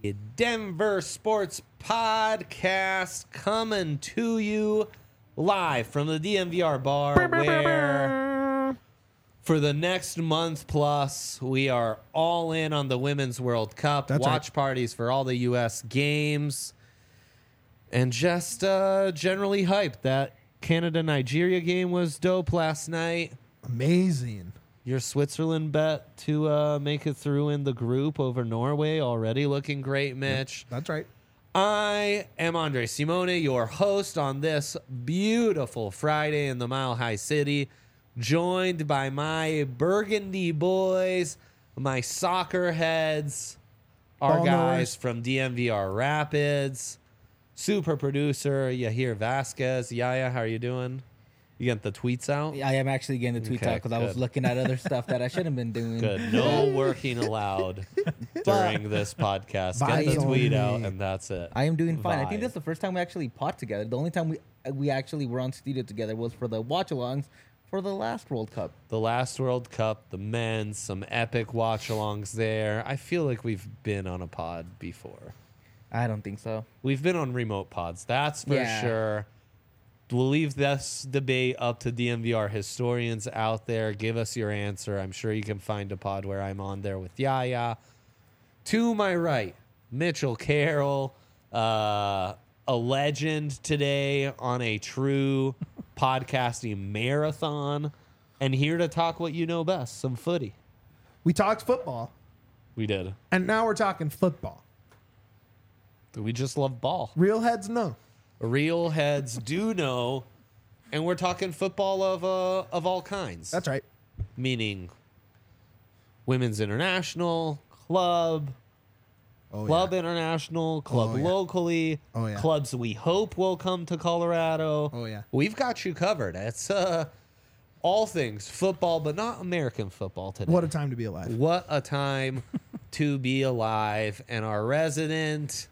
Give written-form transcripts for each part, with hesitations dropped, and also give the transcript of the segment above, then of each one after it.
Denver Sports Podcast coming to you live from the DMVR bar where for the next month plus we are all in on the Women's World Cup. That's watch right. parties for all the U.S. games and just generally hyped. That Canada-Nigeria game was dope last night. Amazing. Your Switzerland bet to make it through in the group over Norway already looking great, Mitch. That's right. I am Andre Simone, your host on this beautiful Friday in the Mile High City, joined by my Burgundy boys, my soccer heads, our Ball guys knowers. from DMVR Rapids, super producer Yahir Vasquez. Yaya, how are you doing? You get the tweets out? I am actually getting the tweets Okay, out because I was good. looking at other stuff that I shouldn't have been doing. Good. No working allowed during this podcast. Get Vibes the tweet only. out, and that's it. I am doing fine. I think Vibe. that's the first time we actually pod together. The only time we actually were on studio together was for the watch-alongs for the last World Cup. The last World Cup, the men's, some epic watch-alongs there. I feel like we've been on a pod before. I don't think so. We've been on remote pods, that's for Yeah. sure. We'll leave this debate up to DMVR historians out there. Give us your answer. I'm sure you can find a pod where I'm on there with Yaya. To my right, Mitchell Carroll, a legend today on a true podcasting marathon, and here to talk what you know best, some footy. We talked football, We did. and now we're talking football. We just love ball. Real heads know. Real heads do know, and we're talking football of all kinds. That's right. Meaning women's international, club, Oh, club international, club Oh, yeah. locally, Oh, yeah. clubs we hope will come to Colorado. Oh, yeah. We've got you covered. It's all things football, but not American football today. What a time to be alive. What a time to be alive. And our resident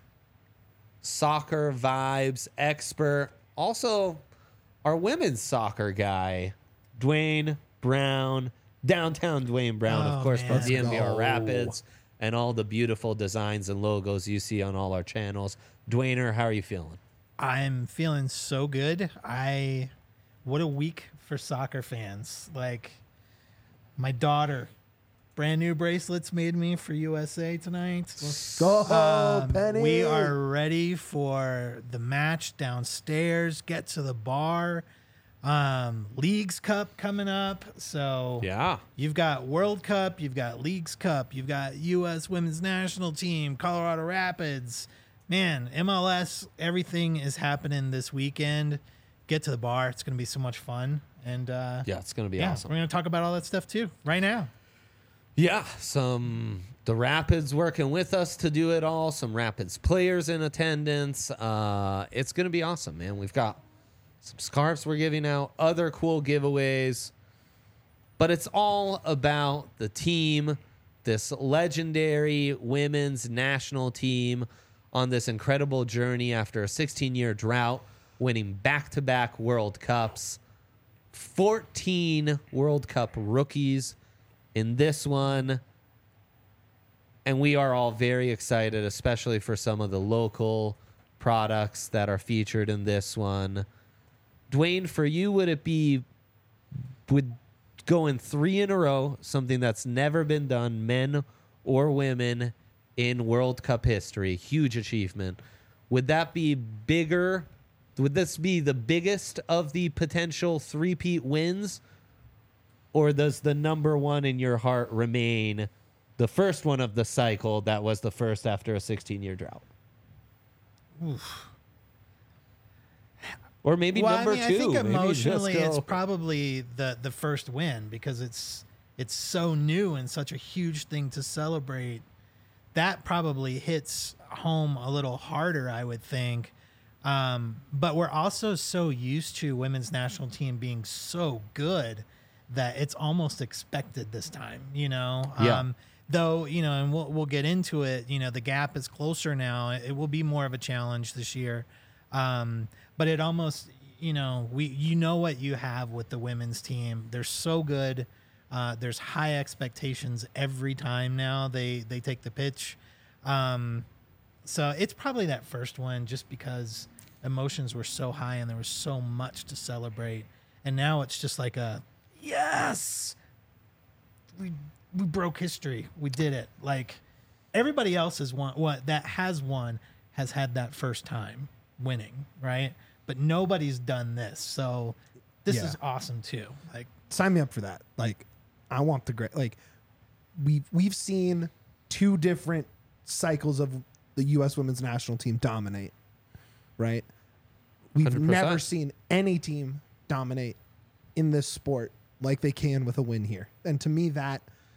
soccer vibes expert, also our women's soccer guy, Dwayne Brown, downtown Dwayne Brown, of Oh, course, man. from Let's DMVR go. Rapids, and all the beautiful designs and logos you see on all our channels. Dwayner, how are you feeling? I'm feeling so good. What a week for soccer fans. Like, my daughter, brand new bracelets made me for USA tonight. Go, Penny. We are ready for the match downstairs. Get to the bar. Leagues Cup coming up. So Yeah. you've got World Cup, you've got Leagues Cup, you've got U.S. Women's National Team, Colorado Rapids. Man, MLS, everything is happening this weekend. Get to the bar. It's going to be so much fun. And Yeah, it's going to be yeah, awesome. we're going to talk about all that stuff too right now. Yeah, the Rapids working with us to do it all. Some Rapids players in attendance. It's going to be awesome, man. We've got some scarves we're giving out, other cool giveaways. But it's all about the team, this legendary women's national team on this incredible journey after a 16-year drought, winning back-to-back World Cups. 14 World Cup rookies in this one. And we are all very excited, especially for some of the local products that are featured in this one. Dwayne, for you, would going 3 in a row, something that's never been done, men or women, in World Cup history, huge achievement. Would that be bigger? Would this be the biggest of the potential three-peat wins? Or does the number one in your heart remain the first one of the cycle that was the first after a 16-year drought? Or maybe number two. I think Maybe just emotionally go- it's probably the first win because it's so new and such a huge thing to celebrate. That probably hits home a little harder, I would think. But we're also so used to women's national team being so good that it's almost expected this time, you know? Yeah. Though, you know, and we'll get into it, you know, the gap is closer now. It will be more of a challenge this year. But it almost, you know, what you have with the women's team. They're so good. There's high expectations every time now they take the pitch. So it's probably that first one, just because emotions were so high and there was so much to celebrate. And now it's just like yes, we broke history. We did it. Like everybody else has won. What that has won has had that first time winning, right? But nobody's done this. So this Yeah. is awesome too. Like Sign me up for that. Like, I want the great. Like, we've seen 2 different cycles of the U.S. women's national team dominate. Right. We've 100%. never seen any team dominate in this sport like they can with a win here. And to me, that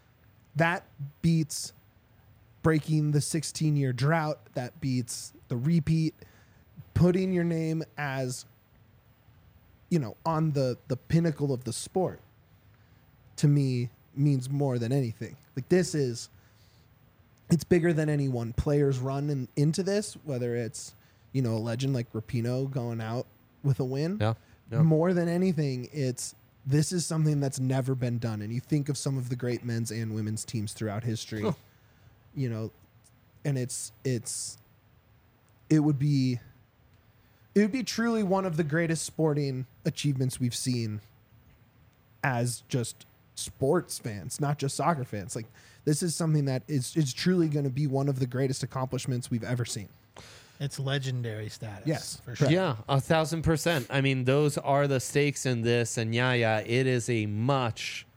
beats breaking the 16-year drought. That beats the repeat. Putting your name as, on the pinnacle of the sport, to me, means more than anything. Like, it's bigger than any one player's run into this, whether it's, a legend like Rapinoe going out with a win. Yeah. More than anything, this is something that's never been done. And you think of some of the great men's and women's teams throughout history, and it would be truly one of the greatest sporting achievements we've seen as just sports fans, not just soccer fans. Like, this is something that is truly going to be one of the greatest accomplishments we've ever seen. it's legendary status. Yes. for sure. Yeah, 1,000%. I mean, those are the stakes in this, and it is a much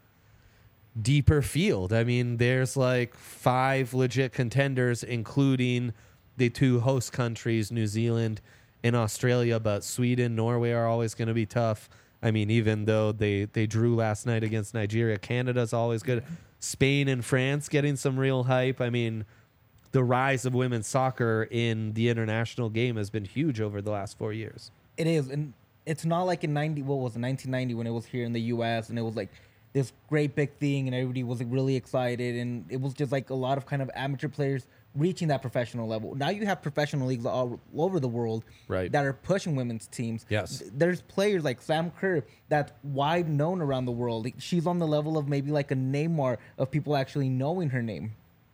deeper field. I mean, there's like 5 legit contenders, including the 2 host countries, New Zealand and Australia, but Sweden, Norway are always going to be tough. I mean, even though they drew last night against Nigeria, Canada's always good. Spain and France getting some real hype. I mean, the rise of women's soccer in the international game has been huge over the last 4 years. It is, and it's not like in 1990 when it was here in the U.S. and it was like this great big thing and everybody was like really excited and it was just like a lot of kind of amateur players reaching that professional level. Now you have professional leagues all over the world Right. that are pushing women's teams. Yes. There's players like Sam Kerr that's wide known around the world. She's on the level of maybe like a Neymar of people actually knowing her name.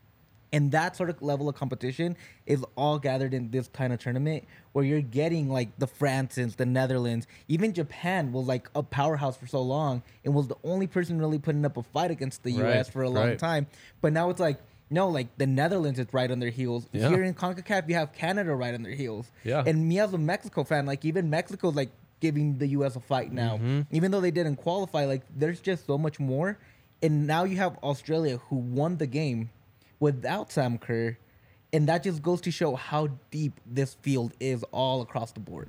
And that sort of level of competition is all gathered in this kind of tournament where you're getting like the Frances, the Netherlands, even Japan was like a powerhouse for so long and was the only person really putting up a fight against the U.S. for a long time. But now it's like, no, like the Netherlands is right on their heels. Yeah. Here in CONCACAF, you have Canada right on their heels. Yeah. And me as a Mexico fan, like even Mexico's like giving the U.S. a fight now. Even though they didn't qualify, like there's just so much more. And now you have Australia who won the game without Sam Kerr, and that just goes to show how deep this field is all across the board.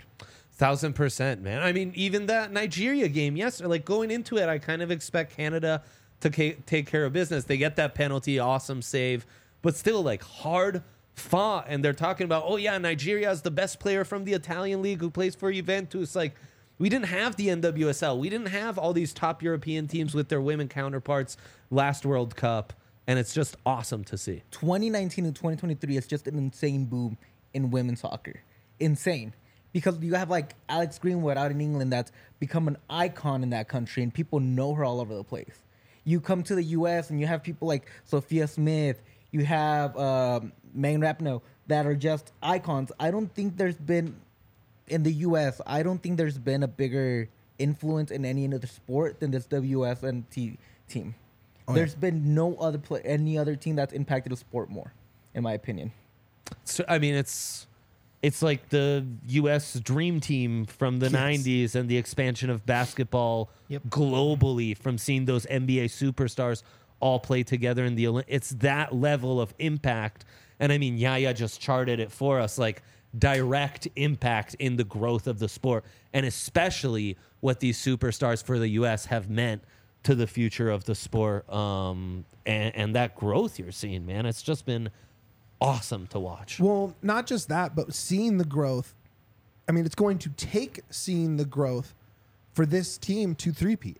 1,000%, man. I mean, even that Nigeria game yesterday, like going into it, I kind of expect Canada to take care of business. They get that penalty, awesome save, but still like hard fought. And they're talking about, oh yeah, Nigeria is the best player from the Italian league who plays for Juventus. Like, we didn't have the NWSL. We didn't have all these top European teams with their women counterparts last World Cup. And it's just awesome to see. 2019 and 2023 is just an insane boom in women's soccer. Insane. Because you have like Alex Greenwood out in England that's become an icon in that country and people know her all over the place. You come to the U.S. and you have people like Sophia Smith. You have Megan Rapinoe that are just icons. I don't think there's been, in the U.S., I don't think there's been a bigger influence in any other sport than this WSNT team. There's been no other any other team that's impacted the sport more, in my opinion. So, I mean, it's like the U.S. Dream Team from the 90s and the expansion of basketball globally from seeing those NBA superstars all play together in the Olympics. It's that level of impact. And I mean, Yaya just charted it for us, like direct impact in the growth of the sport, and especially what these superstars for the U.S. have meant to the future of the sport, and that growth you're seeing, man. It's just been awesome to watch. Well, not just that, but seeing the growth. I mean, it's going to take seeing the growth for this team to three-peat,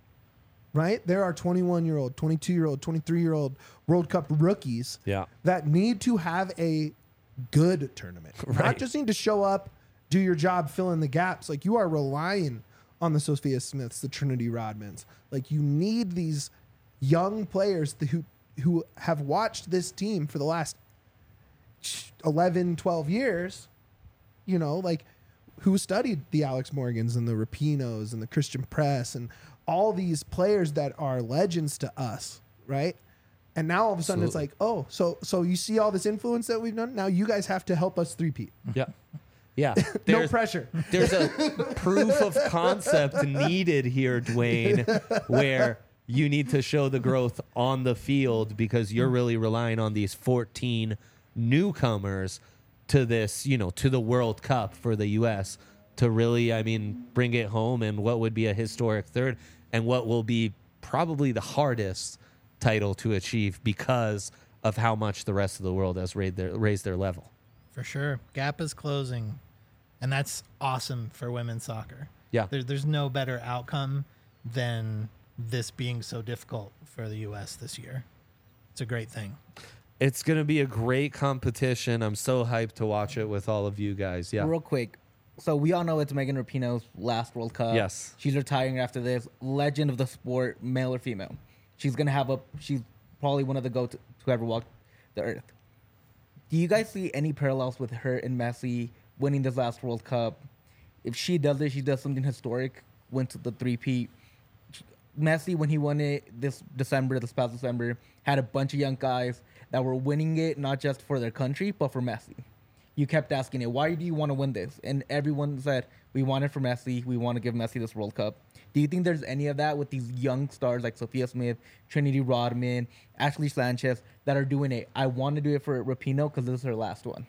right? There are 21-year-old, 22-year-old, 23-year-old World Cup rookies that need to have a good tournament. Right. Not just need to show up, do your job, fill in the gaps. Like, you are relying on the Sophia Smiths, the Trinity Rodmans. Like, you need these young players who have watched this team for the last 11, 12 years, you know, like who studied the Alex Morgans and the Rapinos and the Christian Press and all these players that are legends to us, right? And now all of a sudden it's like, oh, so you see all this influence that we've done? Now you guys have to help us three-peat. Yeah. Yeah. No pressure. There's a proof of concept needed here, Dwayne, where you need to show the growth on the field because you're really relying on these 14 newcomers to this, you know, to the World Cup for the U.S. to really, I mean, bring it home in what would be a historic third and what will be probably the hardest title to achieve because of how much the rest of the world has raised their level. For sure. Gap is closing, and that's awesome for women's soccer. Yeah. There's no better outcome than this being so difficult for the U.S. this year. It's a great thing. It's going to be a great competition. I'm so hyped to watch it with all of you guys. Yeah. Real quick. So we all know it's Megan Rapinoe's last World Cup. Yes. She's retiring after this. Legend of the sport, male or female. She's probably one of the GOATs to ever walk the earth. Do you guys see any parallels with her and Messi winning this last World Cup? If she does it, she does something historic, went to the three-peat. Messi, when he won it this past December, had a bunch of young guys that were winning it, not just for their country, but for Messi. You kept asking it, why do you want to win this? And everyone said, we want it for Messi. We want to give Messi this World Cup. Do you think there's any of that with these young stars like Sophia Smith, Trinity Rodman, Ashley Sanchez that are doing it? I want to do it for Rapinoe because this is her last one.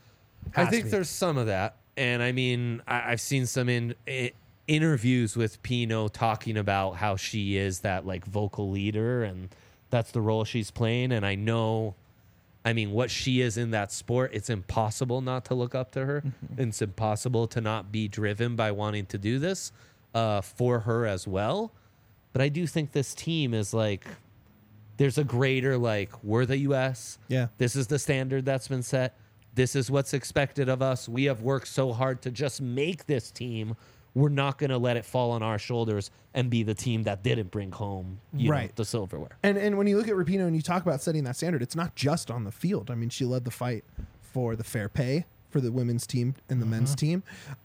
I think there's some of that. And I mean, I've seen some interviews with Pino talking about how she is that like vocal leader and that's the role she's playing. And I know, I mean, what she is in that sport, it's impossible not to look up to her. It's impossible to not be driven by wanting to do this for her as well. But I do think this team is like, there's a greater, like, we're the U.S. Yeah. This is the standard that's been set. This is what's expected of us. We have worked so hard to just make this team. We're not going to let it fall on our shoulders and be the team that didn't bring home know, the silverware. And when you look at Rapinoe and you talk about setting that standard, it's not just on the field. I mean, she led the fight for the fair pay for the women's team and the men's team.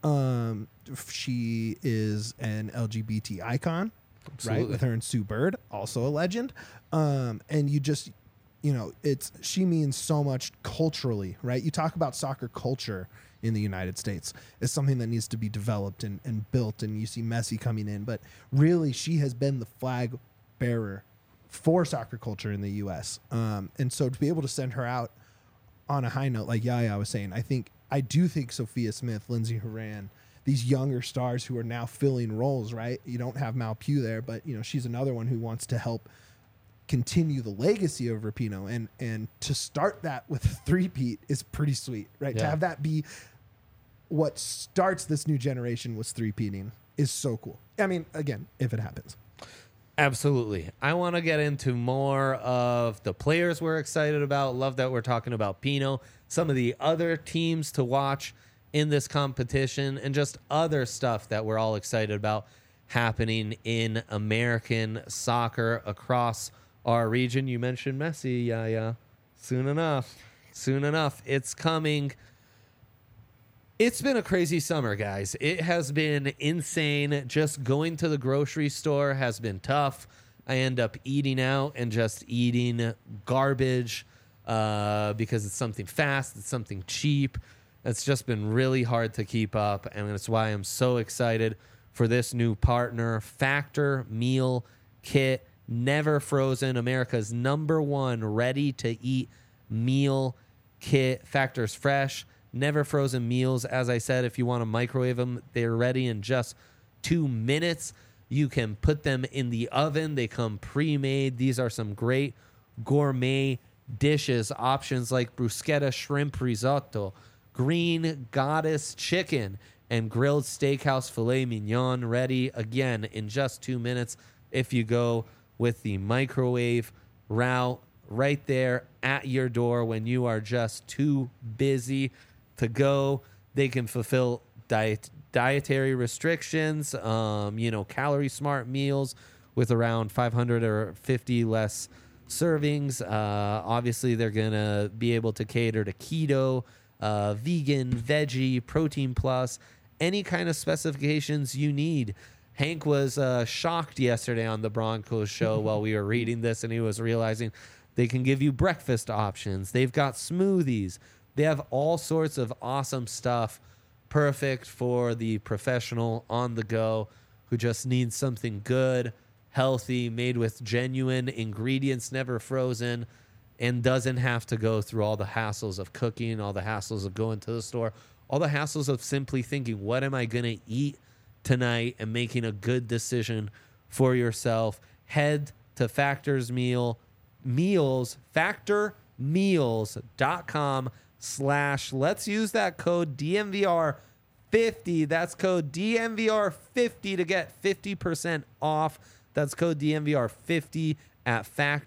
She is an LGBT icon, Absolutely. right? With her and Sue Bird, also a legend. And you just, you know, she means so much culturally, right? You talk about soccer culture in the United States. It's something that needs to be developed and built, and you see Messi coming in, but really she has been the flag bearer for soccer culture in the U.S. And so to be able to send her out on a high note, like Yaya was saying, I do think Sophia Smith, Lindsey Horan, these younger stars who are now filling roles, right? You don't have Mal Pugh there, but you know she's another one who wants to help continue the legacy of Rapinoe, and to start that with a three-peat is pretty sweet, right? Yeah. To have that be what starts this new generation was three-peating is so cool. I mean, again, if it happens. Absolutely. I want to get into more of the players we're excited about. Love that we're talking about Pino, some of the other teams to watch in this competition, and just other stuff that we're all excited about happening in American soccer across our region. You mentioned Messi. Yeah. Soon enough. It's coming. It's been a crazy summer, guys. It has been insane. Just going to the grocery store has been tough. I end up eating out and just eating garbage because it's something fast, it's something cheap. It's just been really hard to keep up, and that's why I'm so excited for this new partner, Factor Meal Kit. Never frozen, America's #1 ready-to-eat meal kit. Factor's fresh, never frozen meals. As I said, if you want to microwave them, they're ready in just 2 minutes. You can put them in the oven. They come pre-made. These are some great gourmet dishes. Options like bruschetta shrimp risotto, green goddess chicken, and grilled steakhouse filet mignon, ready again in just 2 minutes if you go with the microwave route, right there at your door when you are just too busy to go. They can fulfill dietary restrictions, calorie smart meals with around 550 less servings. Obviously, they're going to be able to cater to keto, vegan, veggie, protein plus, any kind of specifications you need. Hank was shocked yesterday on the Broncos show while we were reading this, and he was realizing they can give you breakfast options. They've got smoothies. They have all sorts of awesome stuff, perfect for the professional on the go who just needs something good, healthy, made with genuine ingredients, never frozen, and doesn't have to go through all the hassles of cooking, all the hassles of going to the store, all the hassles of simply thinking, what am I going to eat tonight, and making a good decision for yourself. Head to factormeals.com/, let's use that code DMVR50. That's code DMVR50 to get 50% off. That's code DMVR50 at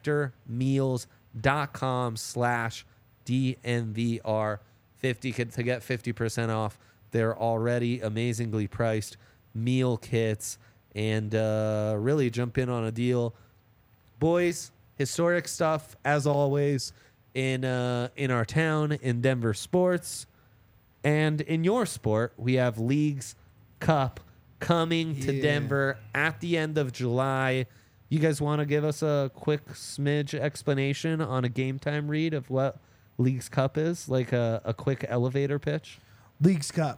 factormeals.com/DMVR50 to get 50% off. They're already amazingly priced meal kits, and really jump in on a deal. Boys, historic stuff as always in our town, in Denver sports, and in your sport. We have Leagues Cup coming to Denver at the end of July. You guys want to give us a quick smidge explanation on a game time read of what Leagues Cup is? Like a quick elevator pitch? Leagues Cup.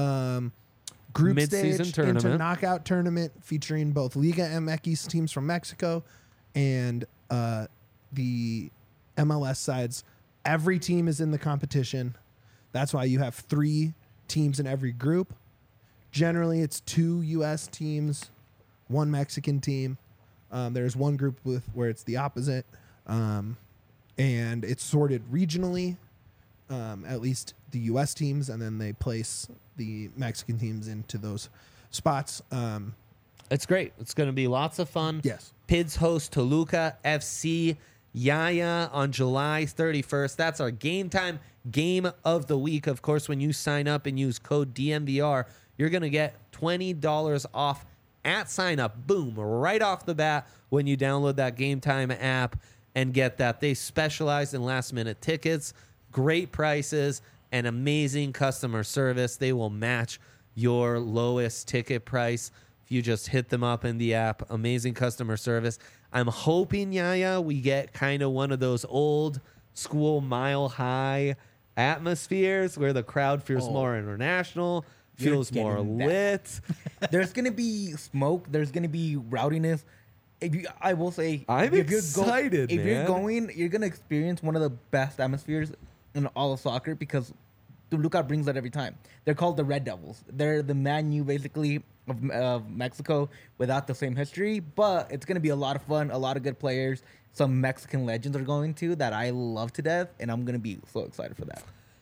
Group Mid-season stage tournament. into knockout tournament featuring both Liga MX teams from Mexico and the MLS sides. Every team is in the competition. That's why you have 3 teams in every group. Generally, it's 2 U.S. teams, 1 Mexican team. There's one group where it's the opposite, and it's sorted regionally. At least the U.S. teams, and then they place the Mexican teams into those spots. It's great. It's going to be lots of fun. Yes. Pids host Toluca FC Yaya on July 31st. That's our game time game of the week. Of course, when you sign up and use code DMVR, you're going to get $20 off at sign up. Boom, right off the bat when you download that Game Time app and get that. They specialize in last minute tickets, great prices, and amazing customer service. They will match your lowest ticket price if you just hit them up in the app. Amazing customer service. I'm hoping, Yaya, we get kind of one of those old school Mile High atmospheres where the crowd feels more international, feels more getting that. lit. There's gonna be smoke. There's gonna be rowdiness. I will say, I'm excited, if man. you're going, you're gonna experience one of the best atmospheres in all of soccer because Toluca brings that every time. They're called the Red Devils. They're the Man U basically of Mexico without the same history, but it's gonna be a lot of fun. A lot of good players. Some Mexican legends are going to that I love to death, and I'm gonna be so excited for that.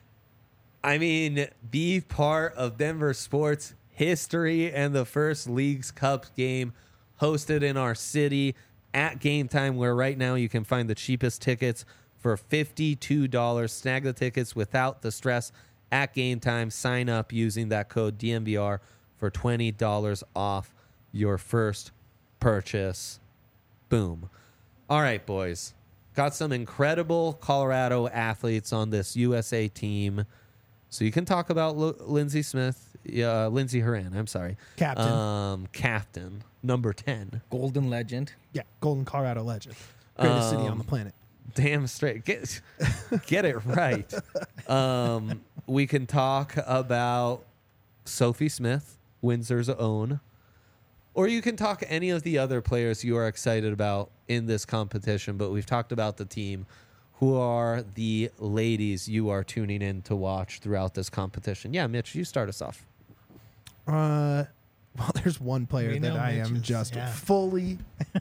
I mean, be part of Denver sports history and the first Leagues Cup game hosted in our city at Game Time, where right now you can find the cheapest tickets for $52. Snag the tickets without the stress at Game Time. Sign up using that code DMVR for $20 off your first purchase. Boom. All right, boys. Got some incredible Colorado athletes on this USA team. So you can talk about Lindsey Horan. I'm sorry. Captain. Number 10. Golden legend. Yeah, Golden Colorado legend. Greatest city on the planet. Damn straight. Get it right. We can talk about Sophie Smith, Windsor's own. Or you can talk any of the other players you are excited about in this competition. But we've talked about the team. Who are the ladies you are tuning in to watch throughout this competition? Yeah, Mitch, you start us off. Well, there's one player We that know I am Mitch's, just yeah. fully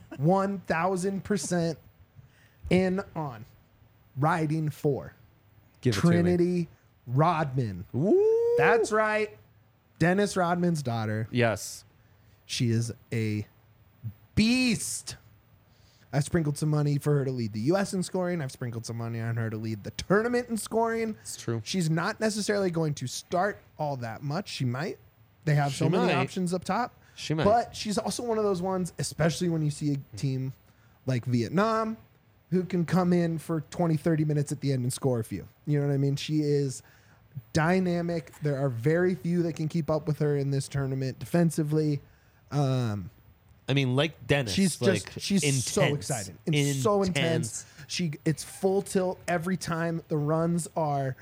1,000% in on. Riding for Give it to me. Trinity Rodman. Woo! That's right. Dennis Rodman's daughter. Yes. She is a beast. I've sprinkled some money for her to lead the U.S. in scoring. I've sprinkled some money on her to lead the tournament in scoring. It's true. She's not necessarily going to start all that much. She might. They have so many might. options up top. She might. But she's also one of those ones, especially when you see a team like Vietnam, who can come in for 20, 30 minutes at the end and score a few. You know what I mean? She is dynamic. There are very few that can keep up with her in this tournament defensively. I mean, like Dennis, She's like she's so exciting. It's so intense. It's full tilt every time. The runs are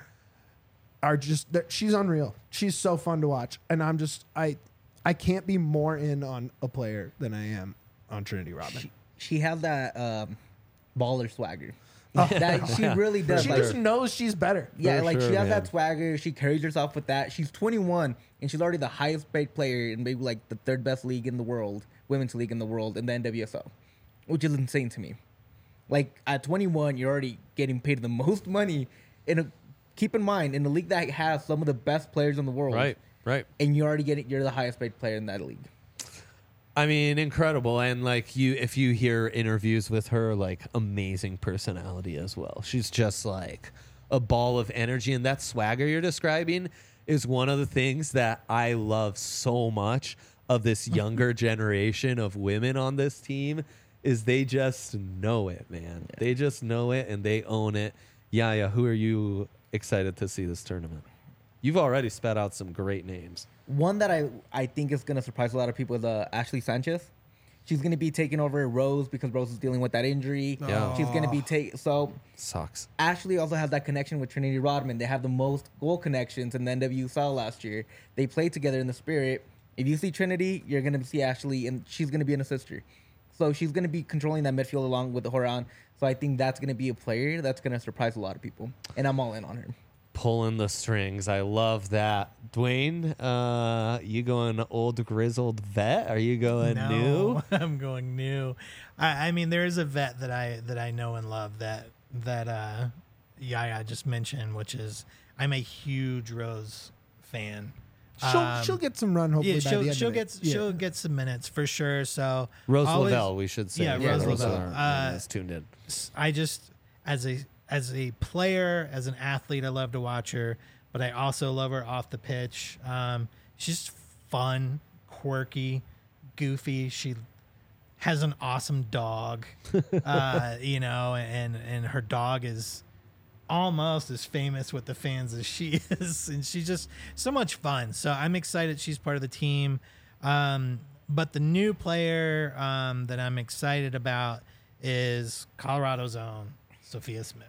just she's unreal. She's so fun to watch, and I can't be more in on a player than I am on Trinity Rodman. She has that baller swagger. That she really does. She like, just knows she's better. yeah, For like sure, she has man. that swagger. She carries herself with that. She's 21 and she's already the highest paid player in maybe like the third best league in the world, women's league in the world, in the NWSL, which is insane to me. Like at 21, you're already getting paid the most money keep in mind, in a league that has some of the best players in the world. Right. And you're the highest paid player in that league. I mean, incredible. And like if you hear interviews with her, like amazing personality as well. She's just like a ball of energy. And that swagger you're describing is one of the things that I love so much of this younger generation of women on this team is they just know it, man. Yeah. They just know it and they own it. Yaya, who are you excited to see this tournament? You've already spat out some great names. One that I think is going to surprise a lot of people is Ashley Sanchez. She's going to be taking over Rose because Rose is dealing with that injury. Yeah. She's going to be so sucks. Ashley also has that connection with Trinity Rodman. They have the most goal connections in the NWSL last year. They played together in the Spirit. If you see Trinity, you're going to see Ashley, and she's going to be an assister. So she's going to be controlling that midfield along with Horan. So I think that's going to be a player that's going to surprise a lot of people. And I'm all in on her. Pulling the strings. I love that. Dwayne, you going old grizzled vet? Are you going new? I'm going new. I mean, there is a vet that I know and love that Yaya just mentioned, which is I'm a huge Rose fan. She'll get some run hopefully by the end she'll of it. she'll get some minutes for sure. So Rose always, Lavelle, we should say. Yeah, Rose Lavelle. Is tuned in. I just as a player, as an athlete, I love to watch her, but I also love her off the pitch. She's fun, quirky, goofy. She has an awesome dog, and her dog is almost as famous with the fans as she is, and she's just so much fun. So I'm excited she's part of the team. But the new player that I'm excited about is Colorado's own Sophia Smith.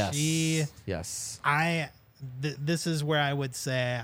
Yes. This is where I would say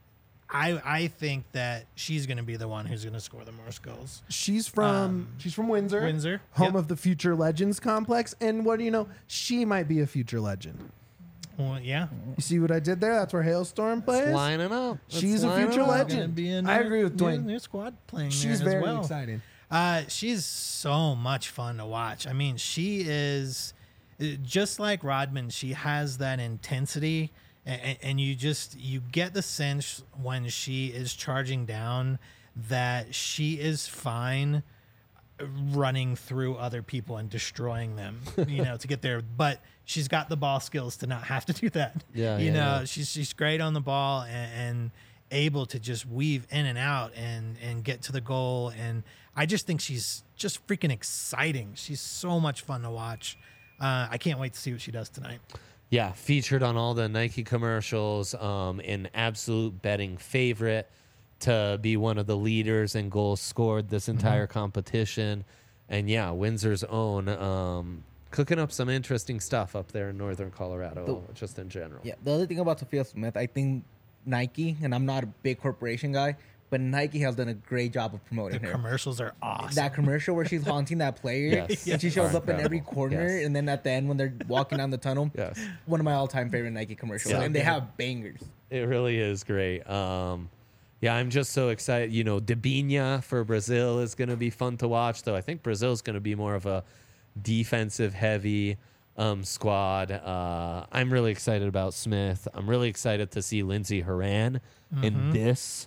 I think that she's going to be the one who's going to score the most goals. She's from Windsor, home of the Future Legends complex, and what do you know? She might be a future legend. Well, yeah. You see what I did there? That's where Hailstorm plays. It's lining up. She's a future legend. I agree with Dwayne. New squad playing. She's there very as well. exciting. She's so much fun to watch. I mean, she is just like Rodman. She has that intensity, and you get the sense when she is charging down that she is fine running through other people and destroying them, to get there. But she's got the ball skills to not have to do that. Yeah. She's great on the ball and able to just weave in and out and get to the goal. And I just think she's just freaking exciting. She's so much fun to watch. I can't wait to see what she does tonight. Yeah, featured on all the Nike commercials, an absolute betting favorite to be one of the leaders in goals scored this entire competition. And yeah, Windsor's own, cooking up some interesting stuff up there in northern Colorado, just in general. Yeah, the other thing about Sophia Smith, I think Nike, and I'm not a big corporation guy, but Nike has done a great job of promoting The her. commercials are awesome. That commercial where she's haunting that player, Yes. and she shows Are up in every incredible. corner, Yes. and then at the end when they're walking down the tunnel, Yes. one of my all-time favorite Nike commercials, Yeah. and they have bangers. It really is great. Yeah, I'm just so excited. Debinha for Brazil is going to be fun to watch, though. I think Brazil is going to be more of a defensive-heavy squad. I'm really excited about Smith. I'm really excited to see Lindsey Horan in this,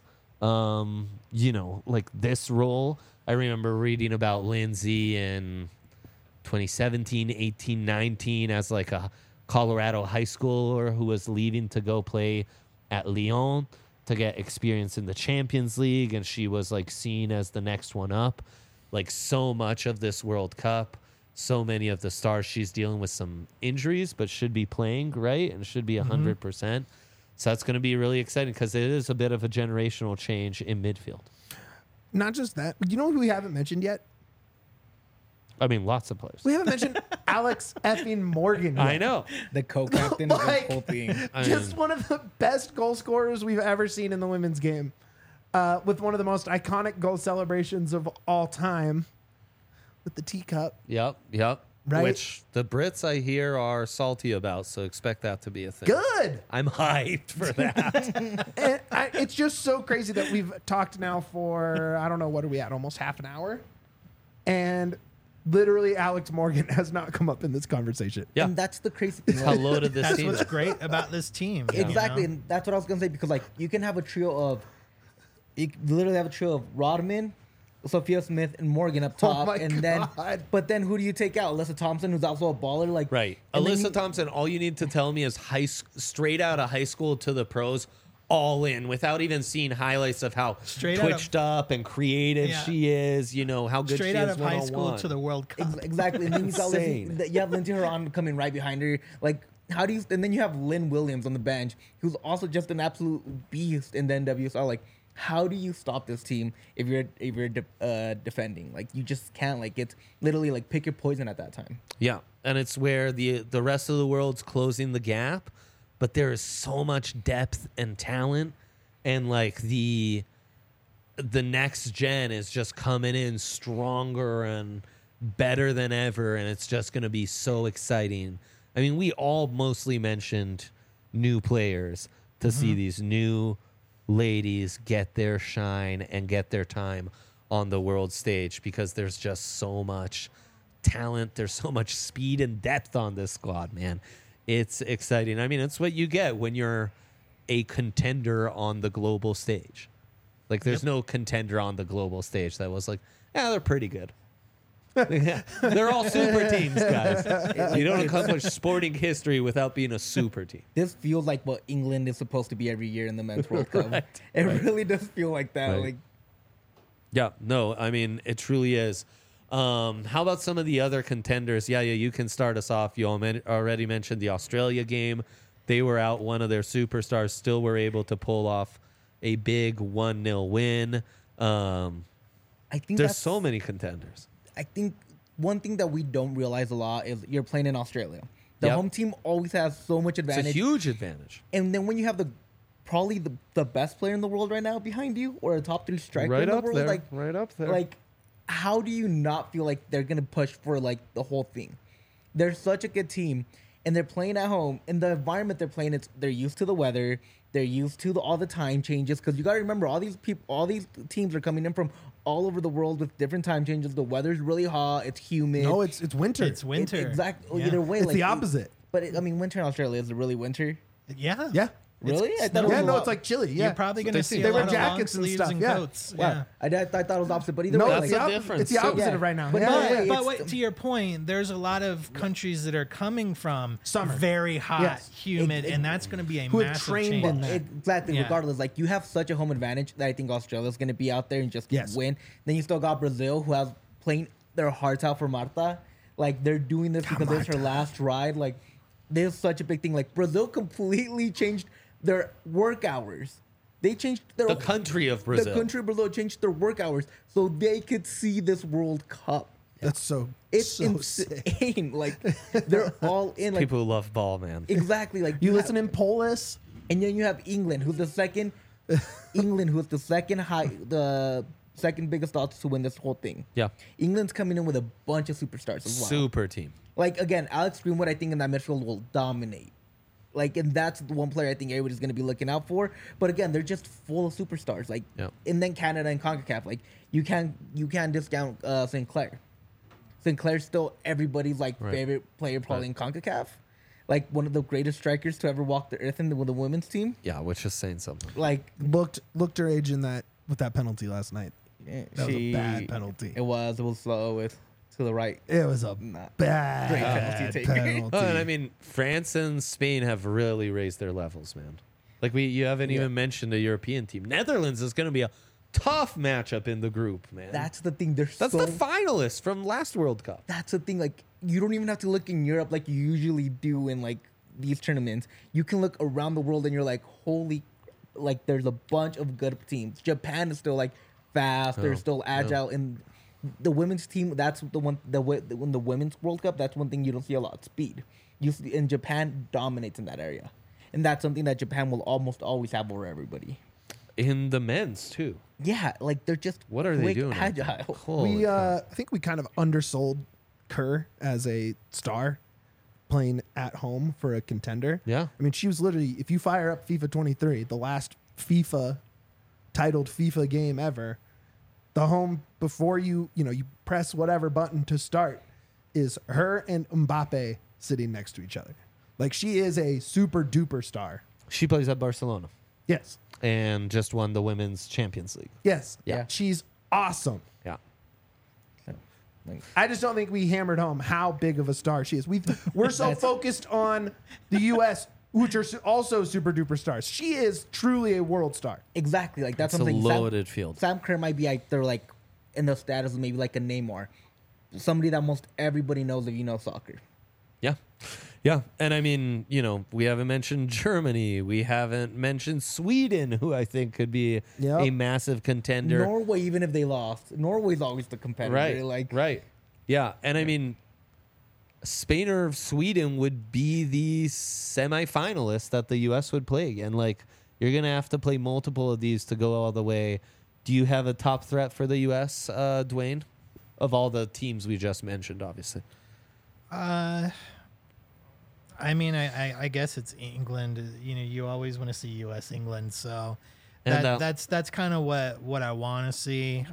this role. I remember reading about Lindsey in 2017, 18, 19 as like a Colorado high schooler who was leaving to go play at Lyon to get experience in the Champions League, and she was like seen as the next one up. Like so much of this World Cup so many of the stars. She's dealing with some injuries, but should be playing, right? And should be 100%. So that's going to be really exciting because it is a bit of a generational change in midfield. Not just that. You know who we haven't mentioned yet? I mean, lots of players. We haven't mentioned Alex effing Morgan yet. I know. The co-captain of Like, this whole thing. Just one of the best goal scorers we've ever seen in the women's game. With one of the most iconic goal celebrations of all time with the teacup. Yep. Right? Which the Brits, I hear, are salty about, so expect that to be a thing. Good. I'm hyped for that. And it's just so crazy that we've talked now for, I don't know, what are we at? Almost half an hour? And literally Alex Morgan has not come up in this conversation. Yeah. And that's the crazy thing. How loaded this That's team what's is. great about this team. you Exactly, know? and that's what I was gonna say because like you can have a trio of, you literally have a trio of Rodman, Sophia Smith, and Morgan up top, my and then God. but then who do you take out? Alyssa Thompson, who's also a baller, like Right. and then Alyssa you- Thompson, all you need to tell me is straight out of high school to the pros, all in, without even seeing highlights of how Straight out of- twitched up and creative Yeah. she is, how good Straight she out is of high school one-on-one. to the World Cup. Exactly, and then you got Insane. you have Lindsay Horan coming right behind her. Like, how do you? And then you have Lynn Williams on the bench, who's also just an absolute beast in the NWSL. Like, how do you stop this team if you're defending? Like, you just can't. Like, it's literally like pick your poison at that time. Yeah, and it's where the rest of the world's closing the gap, but there is so much depth and talent, and like the next gen is just coming in stronger and better than ever, and it's just going to be so exciting. I mean, we all mostly mentioned new players to see these new ladies get their shine and get their time on the world stage because there's just so much talent. There's so much speed and depth on this squad, man. It's exciting. I mean, it's what you get when you're a contender on the global stage. Like, there's no contender on the global stage that was like, yeah, they're pretty good. They're all super teams, guys. You don't accomplish sporting history without being a super team. This feels like what England is supposed to be every year in the men's World Cup. Right, It really does feel like that. Right. Like, Yeah, no, I mean, it truly is. How about some of the other contenders? Yeah, you can start us off. You already mentioned the Australia game. They were out. One of their superstars still were able to pull off a big 1-0 win. I think There's that's so many contenders. I think one thing that we don't realize a lot is you're playing in Australia. The Yep. home team always has so much It's a advantage. huge advantage. And then when you have probably the best player in the world right now behind you, or a top 3 striker in the world, right up there. like how do you not feel like they're gonna push for like the whole thing? They're such a good team, and they're playing at home. In the environment they're playing, they're used to the weather. They're used to all the time changes because you got to remember all these teams are coming in from all over the world with different time changes. The weather's really hot. It's humid. No, it's winter. It's winter. Exactly. Yeah. Either way, It's like the opposite. But I mean, winter in Australia is it really winter? Yeah. Yeah. Really? I thought it Yeah, was no, a it's lot- like chilly. Yeah. You're probably That's going what to see they a see. lot They wear of long jackets and sleeves stuff, and yeah. coats. Wow. Yeah. I thought it was opposite, but either No, way, it's like, the, difference. it's the So- opposite Yeah. of right now. But yeah, no, yeah, yeah, yeah. But it's- wait, to your point, there's a lot of countries that are coming from Summer. very hot, Yes. humid, and that's going to be a Who have massive trained change. in that. exactly. Yeah. Regardless, like you have such a home advantage that I think Australia's going to be out there and just Yes. win. Then you still got Brazil, who has playing their hearts out for Marta. Like they're doing this because it's her last ride. Like there's such a big thing. Like Brazil completely changed their work hours. They changed their The country of Brazil. The country of Brazil changed their work hours so they could see this World Cup. That's so It's so sick. insane. Like they're all in. Like People who love ball, man. exactly. Like You have- listen in Polis. and then you have England, who's the second. England, who's the second biggest odds to win this whole thing. Yeah. England's coming in with a bunch of superstars as well. Super team. Like again, Alex Greenwood, I think in that midfield will dominate. Like, and that's the one player I think everybody's going to be looking out for. But again, they're just full of superstars. Like, Yep. and then Canada and CONCACAF. Like, you can't discount Sinclair. Sinclair's still everybody's like Right. favorite player probably in CONCACAF. Like one of the greatest strikers to ever walk the earth with the women's team. Yeah, which is saying something. Looked her age in that with that penalty last night. Yeah, That was a bad penalty. It was slow with to the right. It was a Nah. bad Great penalty taker. penalty. Oh, and I mean, France and Spain have really raised their levels, man. Like you haven't even mentioned a European team. Netherlands is going to be a Tough matchup in the group, man. That's the thing. There's That's so the finalists from last World Cup. that's the thing. Like, you don't even have to look in Europe like you usually do in like these tournaments. You can look around the world and you're like, holy, like there's a bunch of good teams. Japan is still like fast. They're still agile. And the women's team, that's the one. When the women's World Cup, that's one thing you don't see a lot. Speed. You see, and Japan dominates in that area, and that's something that Japan will almost always have over everybody. In the men's too. Yeah, like they're just What are they quick, doing? out there? agile. Holy We cow. I think we kind of undersold Kerr as a star playing at home for a contender. Yeah. I mean, she was literally, if you fire up FIFA 23, the last FIFA titled FIFA game ever, the home before you press whatever button to start is her and Mbappe sitting next to each other. Like, she is a super duper star. She plays at Barcelona Yes. and just won the Women's Champions League. Yes. Yeah. She's awesome. Yeah. Like, I just don't think we hammered home how big of a star she is. We're so That's- focused on the U.S., which are also super duper stars. She is truly a world star. exactly. Like that's It's a something. loaded field. Sam Kerr might be like they're like in the status of maybe like a Neymar, somebody that most everybody knows if you know soccer. Yeah. Yeah. And I mean, we haven't mentioned Germany. We haven't mentioned Sweden, who I think could be Yep. a massive contender. Norway, even if they lost, Norway's always the competitor. Right. Like right. Yeah. And I mean, Spain or Sweden would be the semifinalists that the U.S. would play again. Like, you're going to have to play multiple of these to go all the way. Do you have a top threat for the U.S., Dwayne? Of all the teams we just mentioned, obviously. I mean, I guess it's England. You always want to see U.S. England, so And, that's kind of what I want to see.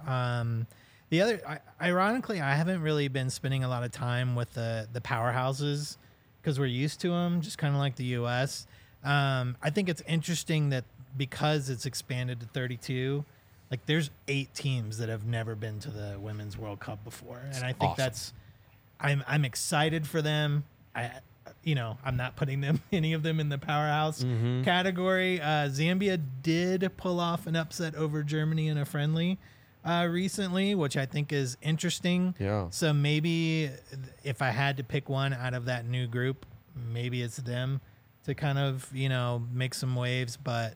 The other, ironically, I haven't really been spending a lot of time with the powerhouses because we're used to them, just kind of like the U.S. I think it's interesting that because it's expanded to 32, like there's 8 teams that have never been to the Women's World Cup before, and I think awesome. I'm excited for them. I'm not putting any of them in the powerhouse category. Zambia did pull off an upset over Germany in a friendly recently, which I think is interesting. Yeah. So maybe if I had to pick one out of that new group, maybe it's them to kind of, make some waves. But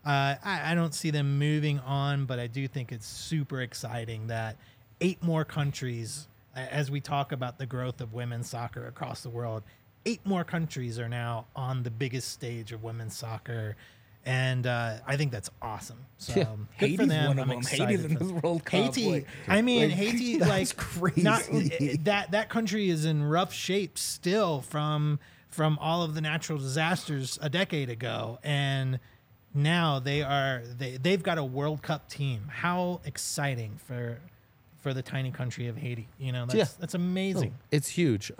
I don't see them moving on, but I do think it's super exciting that 8 more countries, as we talk about the growth of women's soccer across the world, 8 more countries are now on the biggest stage of women's soccer. And I think that's awesome. So Yeah. good for Haiti's them. one of I'm them. excited Haiti's in for this them. World Cup. Haiti. Like, I mean, like, Haiti, that's like crazy. that country is in rough shape still from all of the natural disasters a decade ago, and now they've got a World Cup team. How exciting for the tiny country of Haiti. That's amazing. It's huge.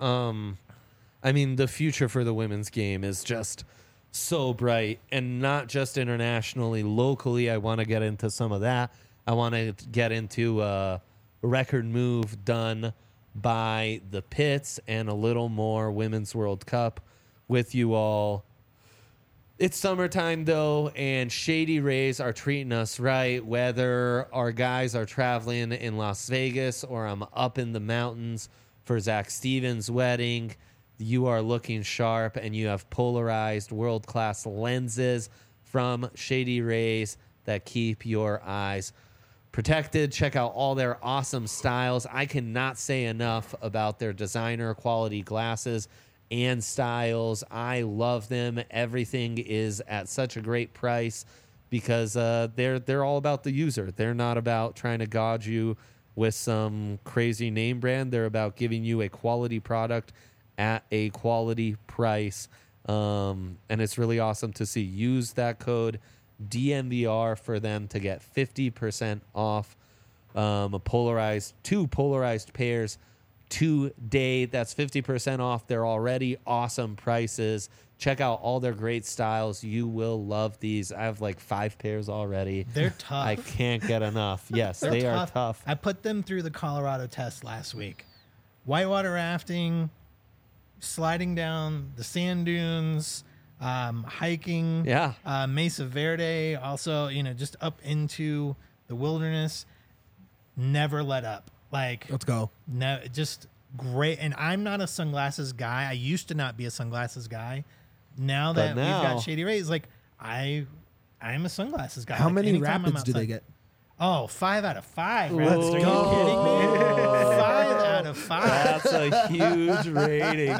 I mean, the future for the women's game is just so bright, and not just internationally, locally. I want to get into some of that. I want to get into a record move done by the Pits and a little more Women's World Cup with you all. It's summertime, though, and Shady Rays are treating us right, whether our guys are traveling in Las Vegas or I'm up in the mountains for Zach Stevens' wedding. You are looking sharp, and you have polarized world-class lenses from Shady Rays that keep your eyes protected. Check out all their awesome styles. I cannot say enough about their designer quality glasses and styles. I love them. Everything is at such a great price because they're all about the user. They're not about trying to gauge you with some crazy name brand. They're about giving you a quality product at a quality price. And it's really awesome to see. Use that code DMVR for them to get 50% off two polarized pairs today. That's 50% off their already awesome prices. Check out all their great styles. You will love these. I have like 5 pairs already. They're tough. I can't get enough. Yes, They're they are tough. I put them through the Colorado test last week. Whitewater rafting, sliding down the sand dunes, hiking. Yeah. Mesa Verde. Also, just up into the wilderness. Never let up. Like, Let's go. no, just great. And I'm not a sunglasses guy. I used to not be a sunglasses guy. Now that we've now- got Shady Rays, like I'm a sunglasses guy. How Like, many anytime I'm rapids do they outside- get? Oh, 5 out of 5. Rats. Are you Whoa. kidding me? 5 out of 5. That's a huge rating.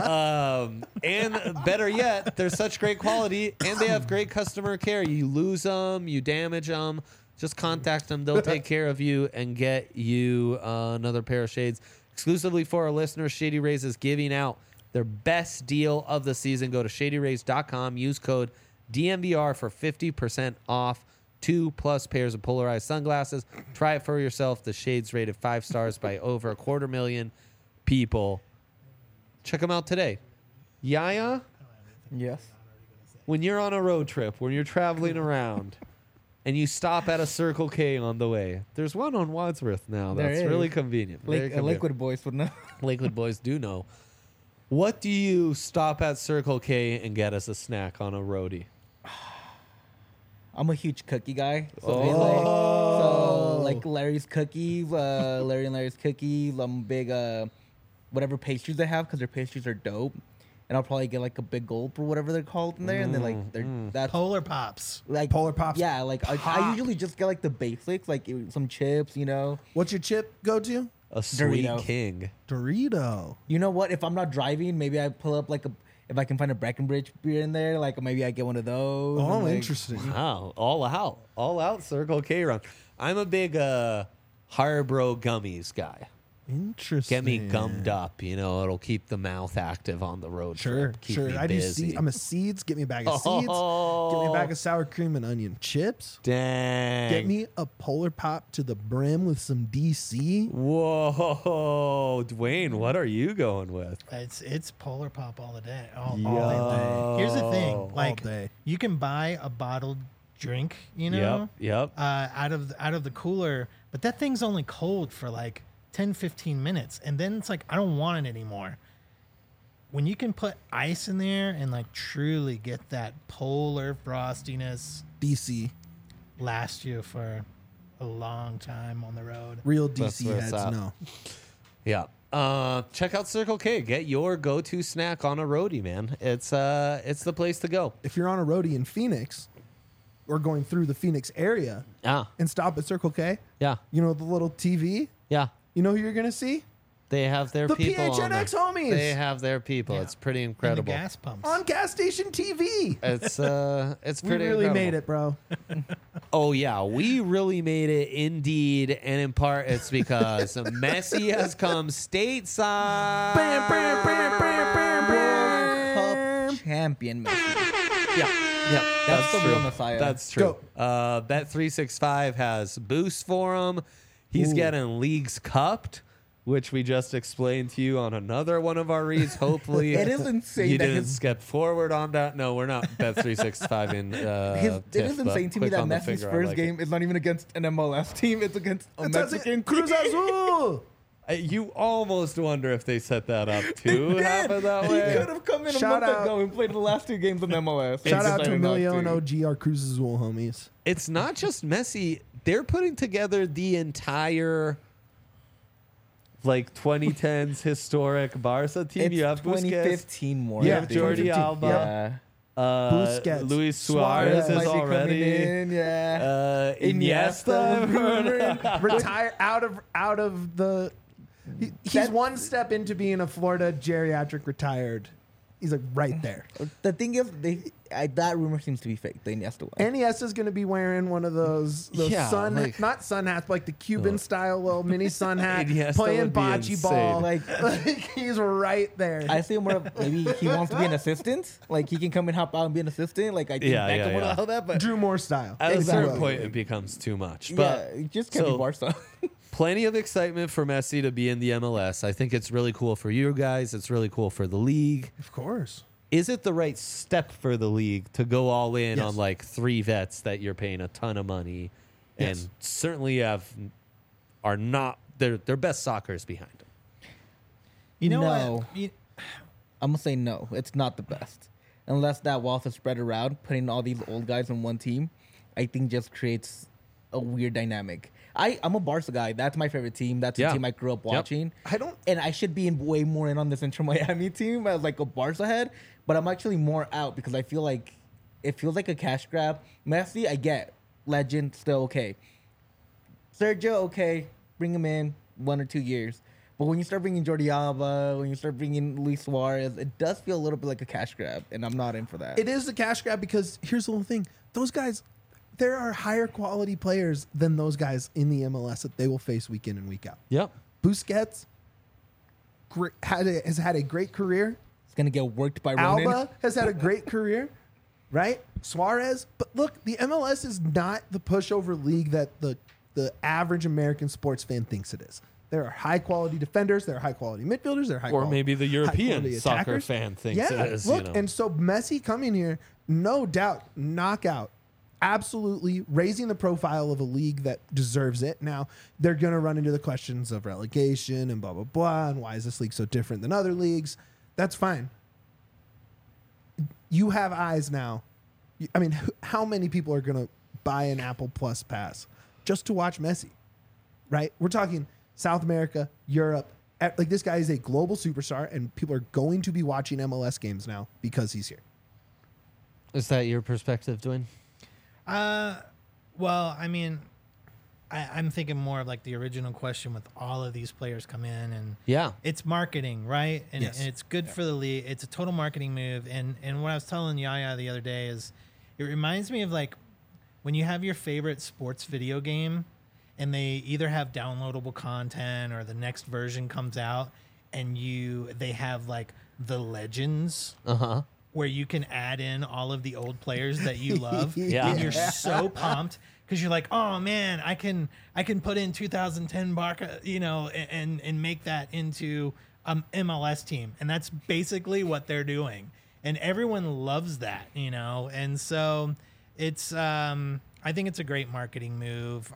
And better yet, they're such great quality and they have great customer care. You lose them, you damage them, just contact them. They'll take care of you and get you another pair of shades. Exclusively for our listeners, Shady Rays is giving out their best deal of the season. Go to shadyrays.com. Use code DMVR for 50% off 2+ pairs of polarized sunglasses. Try it for yourself. The shades rated 5 stars by over 250,000 people. Check them out today. Yaya, Yes. when you're on a road trip, when you're traveling around, and you stop at a Circle K on the way, there's one on Wadsworth now. There That's is. really convenient. Very convenient. Liquid boys would know. Lakewood boys do know. What do you stop at Circle K and get as a snack on a roadie? I'm a huge cookie guy. So, Oh. like Larry's cookies, Larry and Larry's cookies. I'm big whatever pastries they have because their pastries are dope. And I'll probably get like a big gulp or whatever they're called in there, and then like they're that's Polar Pops. like Polar Pops. Yeah, like I usually just get like the basics, like some chips, you know. What's your chip go to? A Sweet Dorito. King. Dorito. You know what? If I'm not driving, maybe I pull up like if I can find a Breckenridge beer in there, like maybe I get one of those. Oh, and, like, interesting. Wow, all out Circle K run. I'm a big Harbro gummies guy. Interesting. Get me gummed up, you know, it'll keep the mouth active on the road Sure, trip. Keep sure. me I do busy. seeds. I'm a seeds. Get me a bag of seeds. Get me a bag of sour cream and onion chips. Dang. Get me a Polar Pop to the brim with some DC. Whoa, Dwayne, what are you going with? It's Polar Pop all the day. Yo. All day. Here's the thing, like day. you can buy a bottled drink, you know, Yep. out of the cooler, but that thing's only cold for like 10, 15 minutes, and then it's like I don't want it anymore. When you can put ice in there and like truly get that polar frostiness, DC. last you for a long time on the road. Real That's DC where it's heads at. know. Yeah. Check out Circle K. Get your go-to snack on a roadie, man. It's the place to go. If you're on a roadie in Phoenix or going through the Phoenix area Yeah. and stop at Circle K, Yeah. you know the little TV? Yeah. You know who you're going to see? They have their The people on there. PHNX homies. They have their people. Yeah. It's pretty And the incredible. gas pumps. On gas station TV. It's We pretty really incredible. made it, bro. Oh yeah, we really made it indeed, and in part it's because Messi has come stateside. World Cup champion Messi. Yeah, That's the true. real Messiah. That's true. Bet365 has boost for him. He's Ooh. getting leagues cupped, which we just explained to you on another one of our reads. Hopefully, It is insane You that didn't his- skip forward on that. No, we're not Bet365 in. It is insane to me that Messi's first game is not even against an MLS team; it's against a Mexican Cruz team. Azul. You almost wonder if they set that up to happen that He way. could have come in a Shout month out- ago and played the last 2 games of MLS. Shout out to Decided not Emilio and to. OG, our Cruz Azul homies. It's not just Messi. They're putting together the entire like 2010s historic Barca team. It's You have Busquets, 2015 more. you Yeah, have Jordi 2015. Alba, Yeah. Busquets, Luis Suarez Suarez is Might be coming already. in, yeah. Iniesta. Iniesta. Retire out of the. He's That- one step into being a Florida geriatric retired. He's like right there. The thing is, that rumor seems to be fake. The Iniesta one. Iniesta's going to be wearing one of those Yeah, sun, like- not sun hats, but like the Cuban style little mini sun hat, Iniesta playing would be bocce insane. ball. Like, He's right there. I see more of maybe he wants to be an assistant. Like he can come and help out and be an assistant. Like I think Yeah, Beckham yeah, would yeah. allow that, but Drew Moore style. At a Exactly. certain point, it becomes too much. yeah, But it just can't so- be Barca. plenty of excitement for Messi to be in the MLS. I think it's really cool for you guys. It's really cool for the league. Of course. Is it the right step for the league to go all in Yes. on like 3 vets that you're paying a ton of money and Yes. certainly are not their best soccer is behind them? You know No. what? I'm gonna say no. It's not the best unless that wealth is spread around. Putting all these old guys on one team, I think just creates a weird dynamic. I'm a Barca guy. That's my favorite team. That's the Yeah. team I grew up watching. I don't. And I should be way more in on this Inter Miami team as like a Barca head, but I'm actually more out because I feel like it feels like a cash grab. Messi, I get. Legend, still okay. Sergio, okay. Bring him in 1 or 2 years. But when you start bringing Jordi Alba, when you start bringing Luis Suarez, it does feel a little bit like a cash grab, and I'm not in for that. It is a cash grab because here's the whole thing. Those guys, there are higher quality players than those guys in the MLS that they will face week in and week out. Yep. Busquets has had a great career. It's going to get worked by Ronan. Alba has had a great career, right? Suarez. But look, the MLS is not the pushover league that the average American sports fan thinks it is. There are high quality defenders. There are high quality midfielders. There are high Or quality, maybe the high European quality soccer attackers. fan thinks Yeah, it is. look, you know. and so Messi coming here, no doubt, knockout, absolutely raising the profile of a league that deserves it. Now they're going to run into the questions of relegation and blah blah blah, and why is this league so different than other leagues? That's fine. You have eyes now. I mean, how many people are going to buy an Apple Plus pass just to watch Messi? Right? We're talking South America, Europe. Like, this guy is a global superstar, and people are going to be watching MLS games now because he's here. Is that your perspective, Dwayne? Well, I mean, I'm thinking more of like the original question with all of these players come in, and Yeah. it's marketing, right? And, Yes. and it's good for the league. It's a total marketing move. And what I was telling Yaya the other day is, it reminds me of like when you have your favorite sports video game, and they either have downloadable content or the next version comes out, and they have like the legends. Uh-huh. Where you can add in all of the old players that you love, Yeah. and you're so pumped because you're like, oh man, I can put in 2010 Barca, and make that into MLS team, and that's basically what they're doing, and everyone loves that, and so it's I think it's a great marketing move.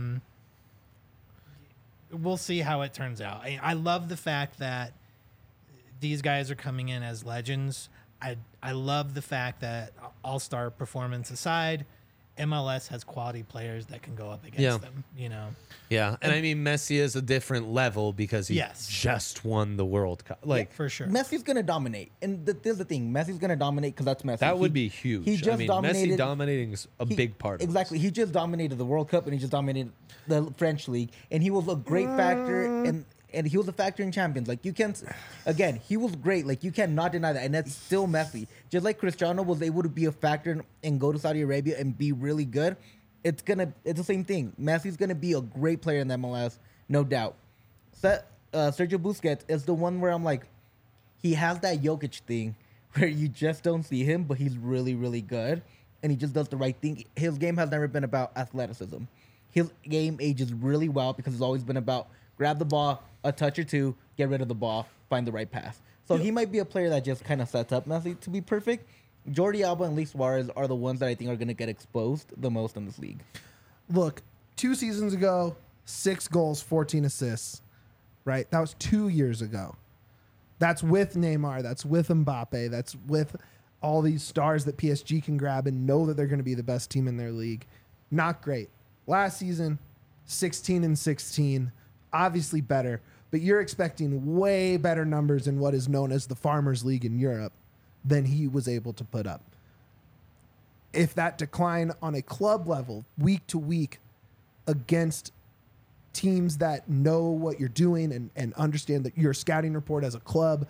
We'll see how it turns out. I love the fact that these guys are coming in as legends. I love the fact that, all-star performance aside, MLS has quality players that can go up against them, Yeah. And I mean, Messi is a different level because he Yes. just won the World Cup. Like, for sure. Messi's going to dominate. And there's the thing. Messi's going to dominate because that's Messi. that would be huge. He just I mean, dominated. Messi dominating is a He- big part of exactly. He just dominated the World Cup and he just dominated the French league, and he was a great factor, and he was a factor in Champions. Like, you can't, again, he was great. Like, you cannot deny that, and that's still Messi. Just like Cristiano was able to be a factor and go to Saudi Arabia and be really good. It's the same thing. Messi's gonna be a great player in the MLS, no doubt. Sergio Busquets is the one where I'm like, he has that Jokic thing where you just don't see him, but he's really, really good, and he just does the right thing. His game has never been about athleticism. His game ages really well because it's always been about grab the ball, a touch or two, get rid of the ball, find the right pass. So he might be a player that just kind of sets up Messi to be perfect. Jordi Alba and Luis Suarez are the ones that I think are going to get exposed the most in this league. Look, 2 seasons ago, 6 goals, 14 assists, right? That was 2 years ago. That's with Neymar. That's with Mbappe. That's with all these stars that PSG can grab and know that they're going to be the best team in their league. Not great. Last season, 16-16, obviously better, but you're expecting way better numbers in what is known as the Farmers League in Europe than he was able to put up. If that decline on a club level, week to week, against teams that know what you're doing and understand that your scouting report as a club,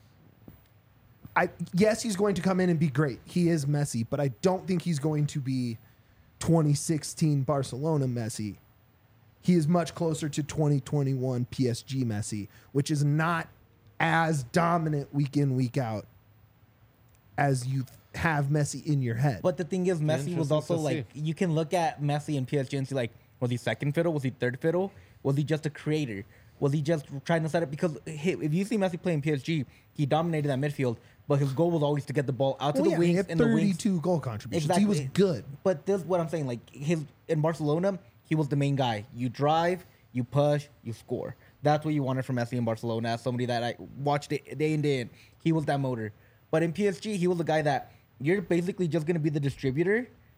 yes, he's going to come in and be great. He is Messi, but I don't think he's going to be 2016 Barcelona Messi. He is much closer to 2021 PSG Messi, which is not as dominant week in, week out as you have Messi in your head. But the thing is, Messi was Interesting also to like, see. you can look at Messi and PSG and see, like, was he second fiddle? Was he third fiddle? Was he just a creator? Was he just trying to set up? Because if you see Messi playing PSG, he dominated that midfield, but his goal was always to get the ball out to the he wings had and the wings. 32 goal contributions. He was good. But this is what I'm saying. Like, in Barcelona, he was the main guy. You drive, you push, you score. That's what you wanted from Messi in Barcelona. As somebody that I watched it day in, day in, he was that motor. But in PSG, he was the guy that you're basically just going to be the distributor,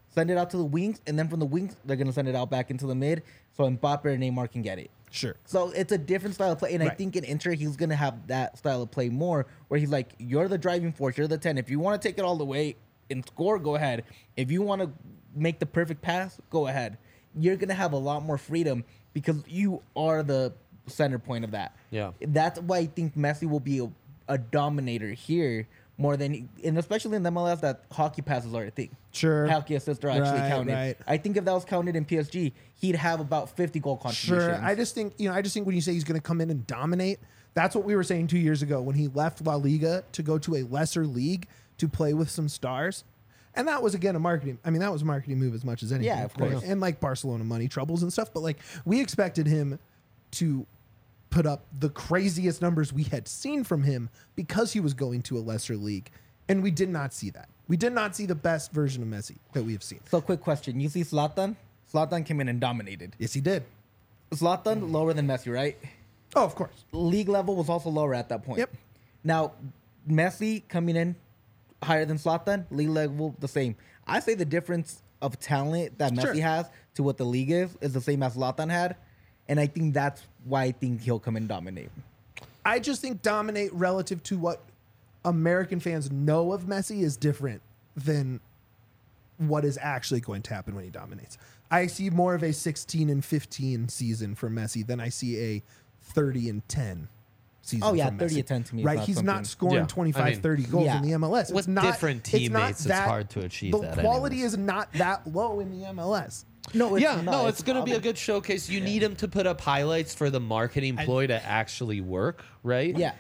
send it out to the wings, and then from the wings, they're going to send it out back into the mid so Mbappe or Neymar can get it. Sure. So it's a different style of play. And I Right. think in Inter, he's going to have that style of play more, where he's like, you're the driving force, you're the 10. If you want to take it all the way and score, go ahead. If you want to make the perfect pass, go ahead. You're going to have a lot more freedom because you are the center point of that. Yeah. That's why I think Messi will be a dominator here more than, and especially in the MLS, that hockey passes are a thing. Sure. Hockey assists are actually Right, counted. right. I think if that was counted in PSG, he'd have about 50 goal contributions. Sure. I just think when you say he's going to come in and dominate, that's what we were saying 2 years ago when he left La Liga to go to a lesser league to play with some stars. And that was, again, a marketing move as much as anything. Yeah, of course. And like Barcelona money troubles and stuff. But like we expected him to put up the craziest numbers we had seen from him because he was going to a lesser league. And we did not see that. We did not see the best version of Messi that we have seen. So, quick question. You see Zlatan? Zlatan came in and dominated. Yes, he did. Zlatan, lower than Messi, right? Oh, of course. League level was also lower at that point. Yep. Now, Messi coming in higher than Zlatan, league level the same. I say the difference of talent that Sure. Messi has to what the league is the same as Zlatan had. And I think that's why I think he'll come and dominate. I just think dominate relative to what American fans know of Messi is different than what is actually going to happen when he dominates. I see more of a 16 and 15 season for Messi than I see a 30 and 10 season. Oh, yeah, from 30 Messi. and 10 to me is right? not He's something- not scoring Yeah, 25, I mean, 30 goals yeah. in the MLS. With different teammates, it's hard to achieve the that The quality anyways. is not that low in the MLS. No, it's Yeah, not. no, it's going to be a good showcase. You need him to put up highlights for the marketing ploy to actually work, right? Yeah.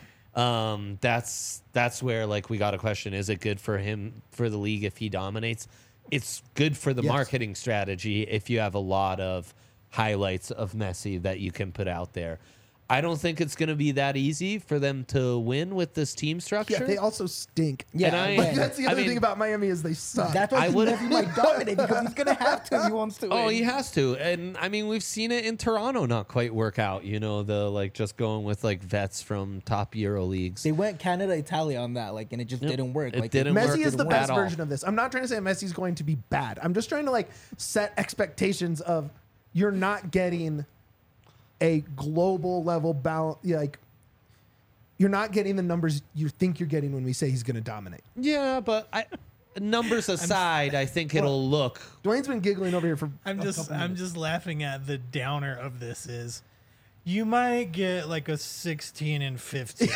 That's where like we got a question: is it good for him for the league if he dominates? It's good for the Yes. marketing strategy if you have a lot of highlights of Messi that you can put out there. I don't think it's going to be that easy for them to win with this team structure. Yeah, they also stink. Yeah, And Like, that's the I other mean- thing about Miami is they suck. That's why I would- Messi might dominate because he's going to have to if he wants to win. Oh, he has to. And I mean, we've seen it in Toronto not quite work out, the like just going with like vets from top Euro leagues. They went Canada, Italia on that, and it just didn't work. It didn't work Messi is the at best all. version of this. I'm not trying to say Messi's going to be bad. I'm just trying to like set expectations of you're not getting a global level balance. Like you're not getting the numbers you think you're getting when we say he's going to dominate. Yeah, but numbers aside, I think it'll look. Dwayne's been giggling over here for. I'm a just couple I'm minutes. just laughing at the downer of this is you might get like a 16 and 15.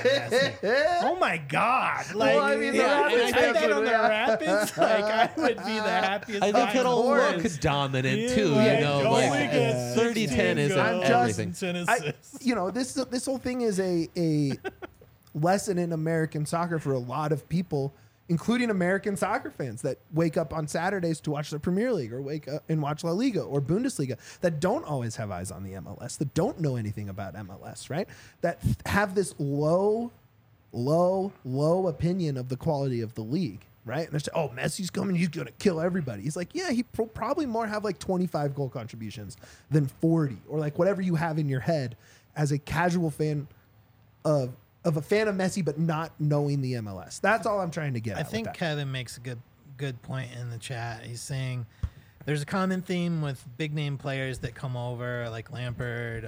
Oh my god. Like Well, I mean, the yeah, Rapids if I had that fans on would- the Rapids, like I would be the happiest. I think guy in it'll the look world. dominant Yeah, too. like, Like only get 30-10 isn't 16 goals everything. and 10 I, assists. this whole thing is a lesson in American soccer for a lot of people, including American soccer fans that wake up on Saturdays to watch the Premier League or wake up and watch La Liga or Bundesliga that don't always have eyes on the MLS, that don't know anything about MLS, right? That have this low opinion of the quality of the league. Right? And they're saying, oh, Messi's coming. He's going to kill everybody. He's like, yeah, he probably more have like 25 goal contributions than 40 or like whatever you have in your head as a casual fan of a fan of Messi, but not knowing the MLS. That's all I'm trying to get I at with think that. Kevin makes a good point in the chat. He's saying there's a common theme with big name players that come over, like Lampard,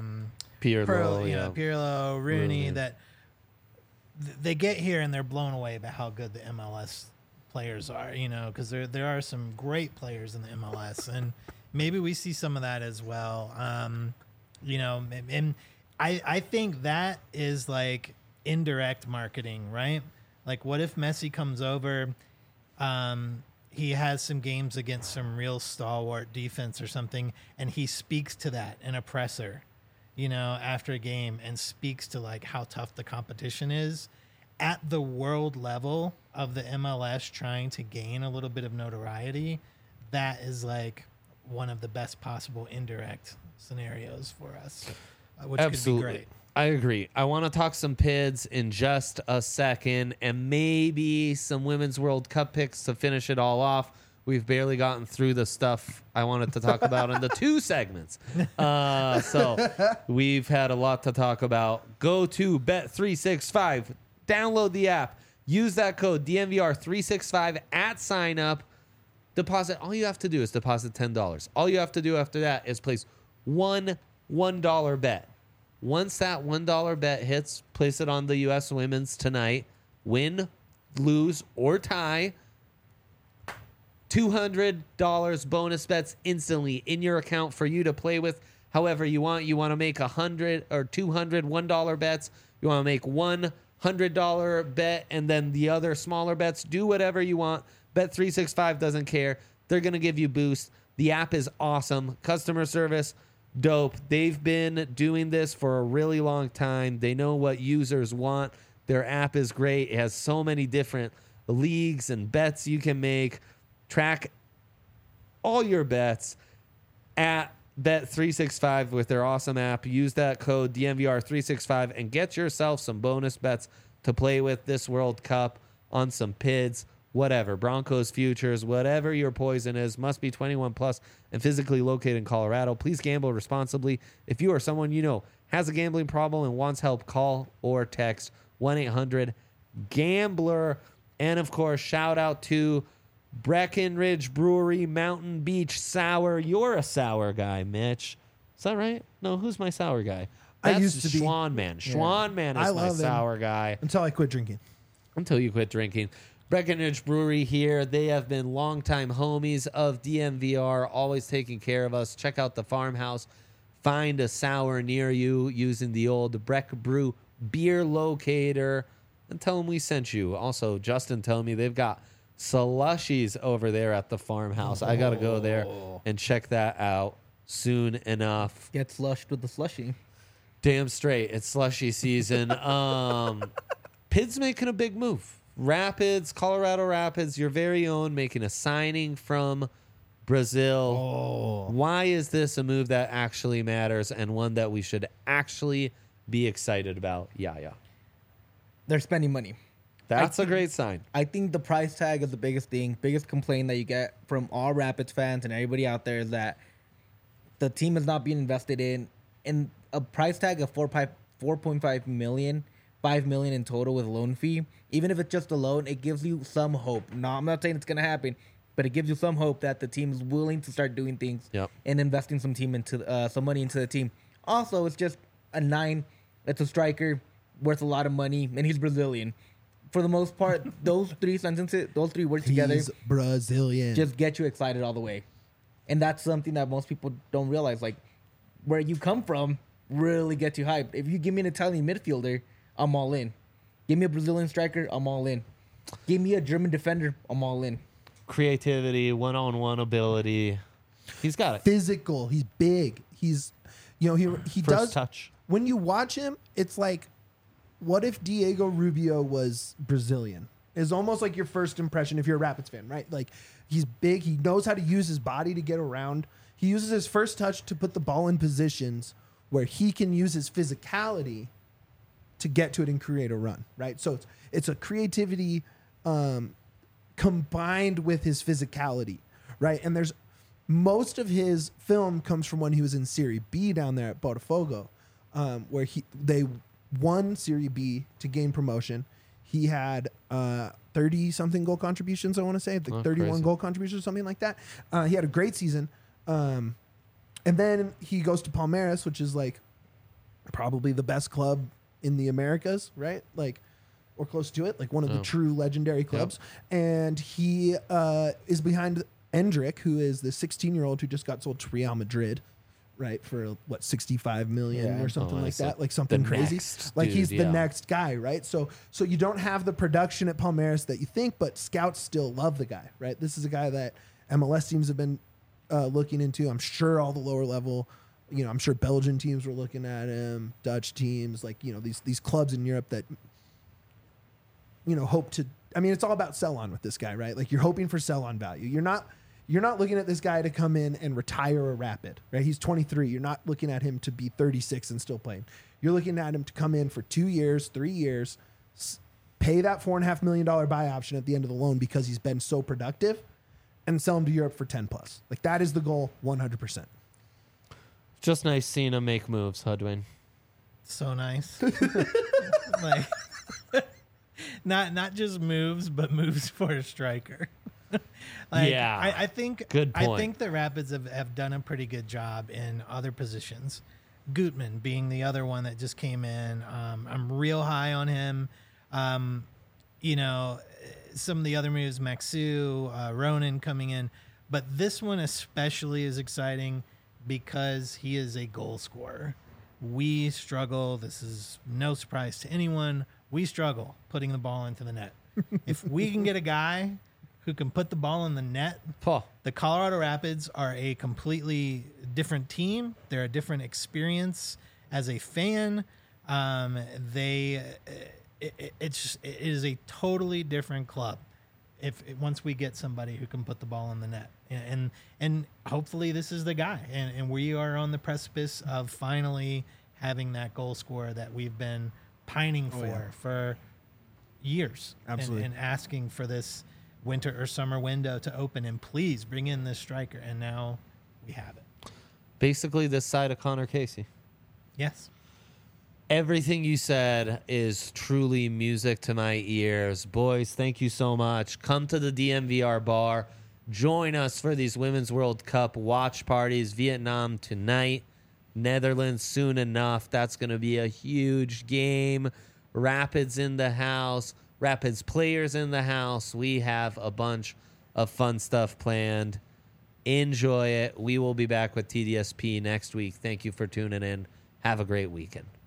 Pirlo, Pirlo, Rooney, Rooney. that they get here and they're blown away by how good the MLS players are, because there are some great players in the MLS, and maybe we see some of that as well. And I think that is like indirect marketing, right? Like, what if Messi comes over, he has some games against some real stalwart defense or something, and he speaks to that in a presser, after a game, and speaks to like how tough the competition is at the world level of the MLS, trying to gain a little bit of notoriety. That is like one of the best possible indirect scenarios for us, which Absolutely. could be great. I agree. I want to talk some PIDs in just a second and maybe some Women's World Cup picks to finish it all off. We've barely gotten through the stuff I wanted to talk about in the two segments. So we've had a lot to talk about. Go to Bet365, download the app, use that code DNVR365 at sign up. deposit. All you have to do is deposit $10. All you have to do after that is place one $1 bet. Once that $1 bet hits, place it on the U.S. women's tonight. Win, lose, or tie. $200 bonus bets instantly in your account for you to play with however you want. You want to make 100 or 200 $1 bets. You want to make $100 bet and then the other smaller bets. Do whatever you want. Bet365 doesn't care. They're going to give you boost. The app is awesome. Customer service, dope. They've been doing this for a really long time. They know what users want. Their app is great. It has so many different leagues and bets you can make. Track all your bets at Bet365 with their awesome app. Use that code DNVR365 and get yourself some bonus bets to play with this World Cup on some PIDs, whatever. Broncos futures, whatever your poison is, must be 21 plus and physically located in Colorado. Please gamble responsibly. If you or someone you know has a gambling problem and wants help, call or text 1-800-GAMBLER. And of course, shout out to Breckenridge Brewery, Mountain Beach Sour. You're a sour guy, Mitch. Is that right? No, who's my sour guy? I That's used to be. Schwan Man. Schwan Man is I my love him. sour guy. Until I quit drinking. Until you quit drinking. Breckenridge Brewery here. They have been longtime homies of DMVR, always taking care of us. Check out the farmhouse. Find a sour near you using the old Breck Brew beer locator and tell them we sent you. Also, Justin told me they've got slushies over there at the farmhouse. I got to go there and check that out soon enough. Get slushed with the slushy. Damn straight. It's slushy season. PID's making a big move. Rapids, Colorado Rapids, your very own, making a signing from Brazil. Why is this a move that actually matters and one that we should actually be excited about? Yeah. They're spending money. That's a great sign. I think the price tag is the biggest thing. Biggest complaint that you get from all Rapids fans and everybody out there is that the team is not being invested in. And a price tag of 4.5 million, 5 million in total with loan fee. Even if it's just a loan, it gives you some hope. No, I'm not saying it's gonna happen, but it gives you some hope that the team is willing to start doing things and investing some money into the team. Also, it's just a 9. It's a striker worth a lot of money, and he's Brazilian. For the most part, those three words together, He's Brazilian. just get you excited all the way. And that's something that most people don't realize. Like, where you come from really gets you hyped. If you give me an Italian midfielder, I'm all in. Give me a Brazilian striker, I'm all in. Give me a German defender, I'm all in. Creativity, one-on-one ability. He's got it. Physical. He's big. He's, he First does. touch. When you watch him, it's like, what if Diego Rubio was Brazilian? It's almost like your first impression if you're a Rapids fan, right? Like, he's big. He knows how to use his body to get around. He uses his first touch to put the ball in positions where he can use his physicality to get to it and create a run, right? So it's a creativity combined with his physicality, right? And there's most of his film comes from when he was in Serie B down there at Botafogo, where they won Serie B to gain promotion. He had 30-something goal contributions, I want to say, like 31 crazy. goal contributions, something like that. He had a great season. And then he goes to Palmeiras, which is like probably the best club in the Americas, right? Like, or close to it, like one of the true legendary clubs. And he is behind Endrick, who is the 16-year-old who just got sold to Real Madrid, right? For what, 65 million or something like that, like something crazy. Like dude, he's the next guy, right? So you don't have the production at Palmeiras that you think, but scouts still love the guy, right? This is a guy that MLS teams have been looking into. I'm sure all the lower level, I'm sure Belgian teams were looking at him, Dutch teams, like, these clubs in Europe that, hope to, it's all about sell on with this guy, right? Like, you're hoping for sell on value. You're not looking at this guy to come in and retire a Rapid, right? He's 23. You're not looking at him to be 36 and still playing. You're looking at him to come in for 2 years, 3 years, pay that $4.5 million buy option at the end of the loan because he's been so productive, and sell him to Europe for 10 plus. Like, that is the goal 100%. Just nice seeing him make moves, huh, Dwayne? So nice. Like, not just moves, but moves for a striker. Yeah. I think Good I point. think the Rapids have done a pretty good job in other positions. Gutman being the other one that just came in. I'm real high on him. You know, some of the other moves, Maxu, Ronan coming in, but this one especially is exciting because he is a goal scorer. We struggle. This is no surprise to anyone. We struggle putting the ball into the net. If we can get a guy who can put the ball in the net, Paul. the Colorado Rapids are a completely different team. They're a different experience as a fan. It is a totally different club. Once we get somebody who can put the ball in the net, and hopefully this is the guy, and we are on the precipice of finally having that goal scorer that we've been pining for years, Absolutely. and asking for this winter or summer window to open, and please bring in this striker, and now we have it. Basically, this side of Connor Casey. Yes. Everything you said is truly music to my ears. Boys, thank you so much. Come to the DMVR bar. Join us for these Women's World Cup watch parties. Vietnam tonight, Netherlands soon enough. That's going to be a huge game. Rapids in the house. Rapids players in the house. We have a bunch of fun stuff planned. Enjoy it. We will be back with TDSP next week. Thank you for tuning in. Have a great weekend.